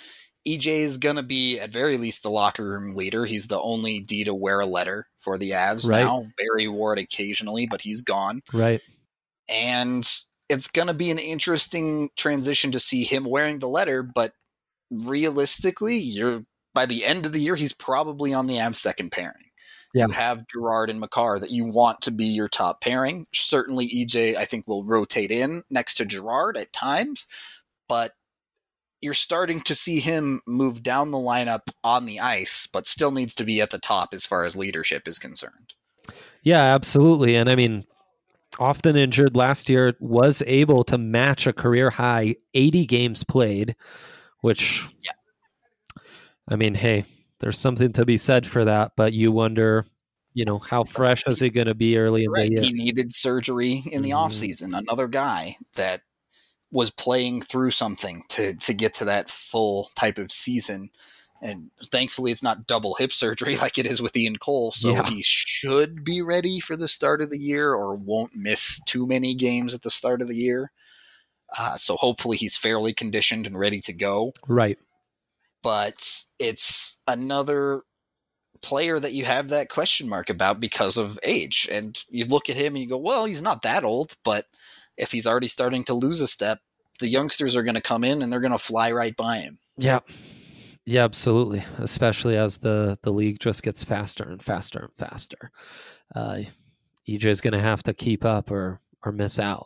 EJ is going to be, at very least, the locker room leader. He's the only D to wear a letter for the Avs now. Barry wore it occasionally, but he's gone. Right. And it's going to be an interesting transition to see him wearing the letter, but realistically, by the end of the year, he's probably on the Avs second pairing. Yeah. You have Girard and Makar that you want to be your top pairing. Certainly EJ, I think, will rotate in next to Girard at times, but you're starting to see him move down the lineup on the ice, but still needs to be at the top as far as leadership is concerned. Yeah, absolutely. And I mean, often injured last year, was able to match a career high 80 games played, which, I mean, hey, there's something to be said for that, but you wonder, how fresh is he going to be early in the year? He needed surgery in the offseason. Another guy that was playing through something to get to that full type of season. And thankfully it's not double hip surgery like it is with Ian Cole. So he should be ready for the start of the year or won't miss too many games at the start of the year. So hopefully he's fairly conditioned and ready to go. Right. But it's another player that you have that question mark about because of age. And you look at him and you go, well, he's not that old, but if he's already starting to lose a step, the youngsters are going to come in and they're going to fly right by him. Yeah. Yeah, absolutely. Especially as the league just gets faster and faster and faster. EJ is going to have to keep up or miss out.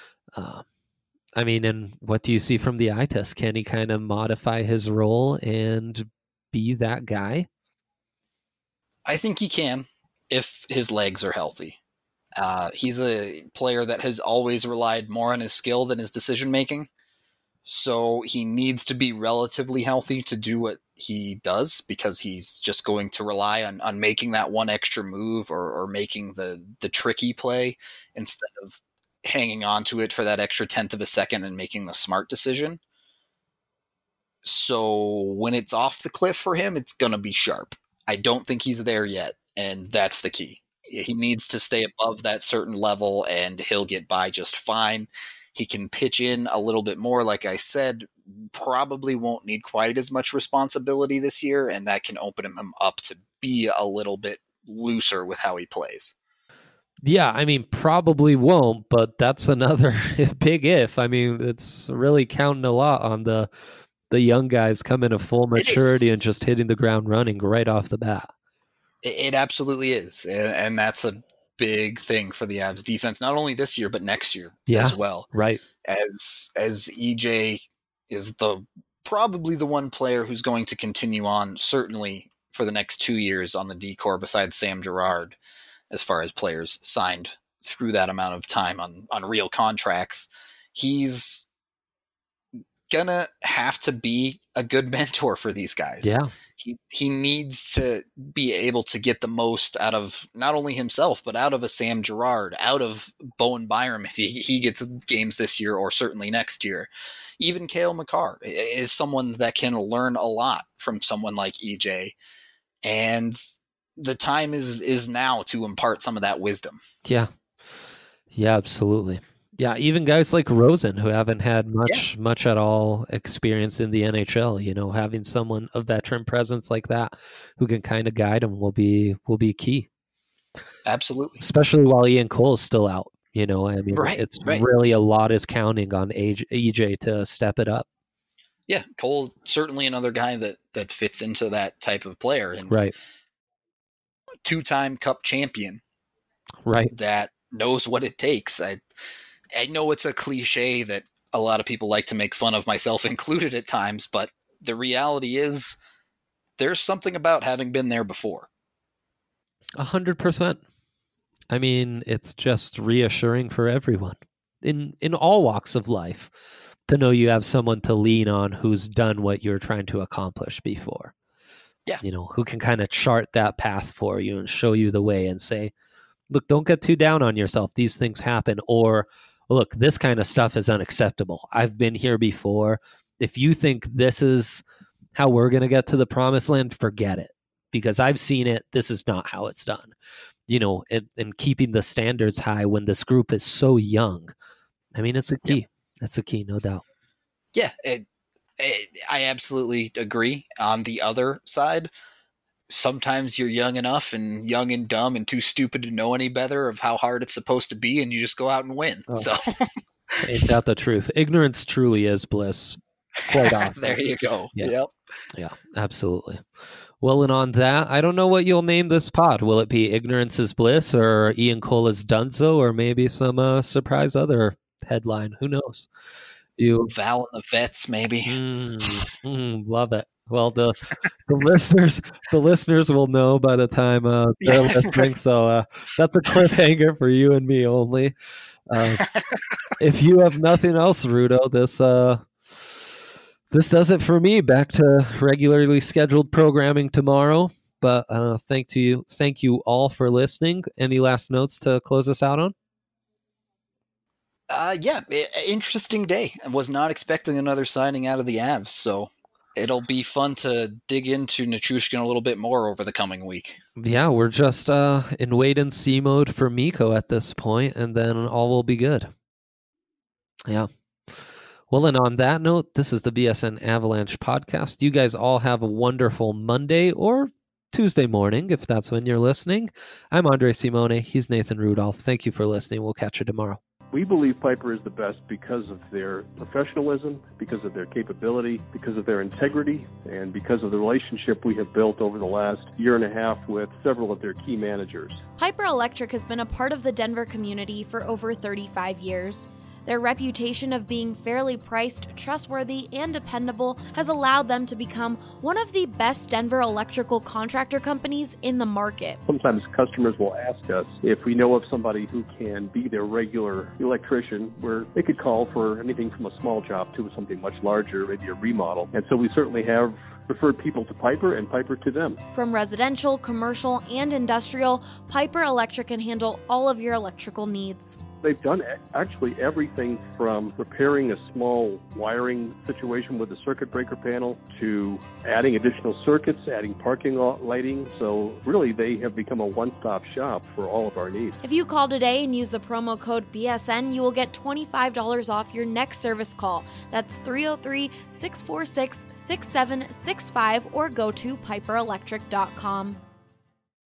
I mean, and what do you see from the eye test? Can he kind of modify his role and be that guy? I think he can if his legs are healthy. He's a player that has always relied more on his skill than his decision-making. So he needs to be relatively healthy to do what he does because he's just going to rely on making that one extra move or making the tricky play instead of hanging on to it for that extra tenth of a second and making the smart decision. So when it's off the cliff for him, it's going to be sharp. I don't think he's there yet, and that's the key. He needs to stay above that certain level, and he'll get by just fine. He can pitch in a little bit more. Like I said, probably won't need quite as much responsibility this year, and that can open him up to be a little bit looser with how he plays. Yeah, I mean, probably won't, but that's another big if. I mean, it's really counting a lot on the young guys coming to full maturity and just hitting the ground running right off the bat. It absolutely is, and that's a big thing for the Avs defense, not only this year but next year as well. Right, as EJ is probably the one player who's going to continue on, certainly for the next 2 years on the D-Corps besides Sam Girard, as far as players signed through that amount of time on real contracts. He's gonna have to be a good mentor for these guys. Yeah. He needs to be able to get the most out of not only himself, but out of a Sam Girard, out of Bowen Byram if he gets games this year or certainly next year. Even Cale Makar is someone that can learn a lot from someone like EJ. And the time is now to impart some of that wisdom. Yeah. Yeah, absolutely. Yeah, even guys like Rosen who haven't had much at all experience in the NHL, having someone, a veteran presence like that who can kind of guide them will be key. Absolutely. Especially while Ian Cole is still out, I mean, it's really a lot is counting on EJ to step it up. Yeah, Cole, certainly another guy that fits into that type of player. And right. Two-time Cup champion. Right. That knows what it takes. I know it's a cliche that a lot of people like to make fun of, myself included at times, but the reality is there's something about having been there before. 100%. I mean, it's just reassuring for everyone in all walks of life to know you have someone to lean on who's done what you're trying to accomplish before. Yeah. Who can kind of chart that path for you and show you the way and say, look, don't get too down on yourself. These things happen. Or, look, this kind of stuff is unacceptable. I've been here before. If you think this is how we're going to get to the promised land, forget it. Because I've seen it. This is not how it's done. And keeping the standards high when this group is so young. I mean, it's a key. That's a key, no doubt. Yeah. I absolutely agree. On the other side, sometimes you're young enough and young and dumb and too stupid to know any better of how hard it's supposed to be, and you just go out and win. Oh. So Ain't that the truth? Ignorance truly is bliss. Quite often. there you go. Yeah. Yep. Yeah, absolutely. Well, and on that, I don't know what you'll name this pod. Will it be Ignorance is Bliss or Ian Cola's Dunzo or maybe some surprise other headline? Who knows? You Val and the Vets, maybe. love it. Well, the listeners will know by the time they're listening. So that's a cliffhanger for you and me only. If you have nothing else, Rudo, this does it for me. Back to regularly scheduled programming tomorrow. But thank you all for listening. Any last notes to close us out on? Interesting day. I was not expecting another signing out of the Avs, so it'll be fun to dig into Nichushkin a little bit more over the coming week. Yeah, we're just in wait and see mode for Mikko at this point, and then all will be good. Yeah. Well, and on that note, this is the BSN Avalanche podcast. You guys all have a wonderful Monday or Tuesday morning, if that's when you're listening. I'm Andre Simone. He's Nathan Rudolph. Thank you for listening. We'll catch you tomorrow. We believe Piper is the best because of their professionalism, because of their capability, because of their integrity, and because of the relationship we have built over the last year and a half with several of their key managers. Piper Electric has been a part of the Denver community for over 35 years. Their reputation of being fairly priced, trustworthy, and dependable has allowed them to become one of the best Denver electrical contractor companies in the market. Sometimes customers will ask us if we know of somebody who can be their regular electrician, where they could call for anything from a small job to something much larger, maybe a remodel. And so we certainly have referred people to Piper and Piper to them. From residential, commercial, and industrial, Piper Electric can handle all of your electrical needs. They've done actually everything from repairing a small wiring situation with a circuit breaker panel to adding additional circuits, adding parking lot lighting. So really, they have become a one-stop shop for all of our needs. If you call today and use the promo code BSN, you will get $25 off your next service call. That's 303-646-6765 or go to piperelectric.com.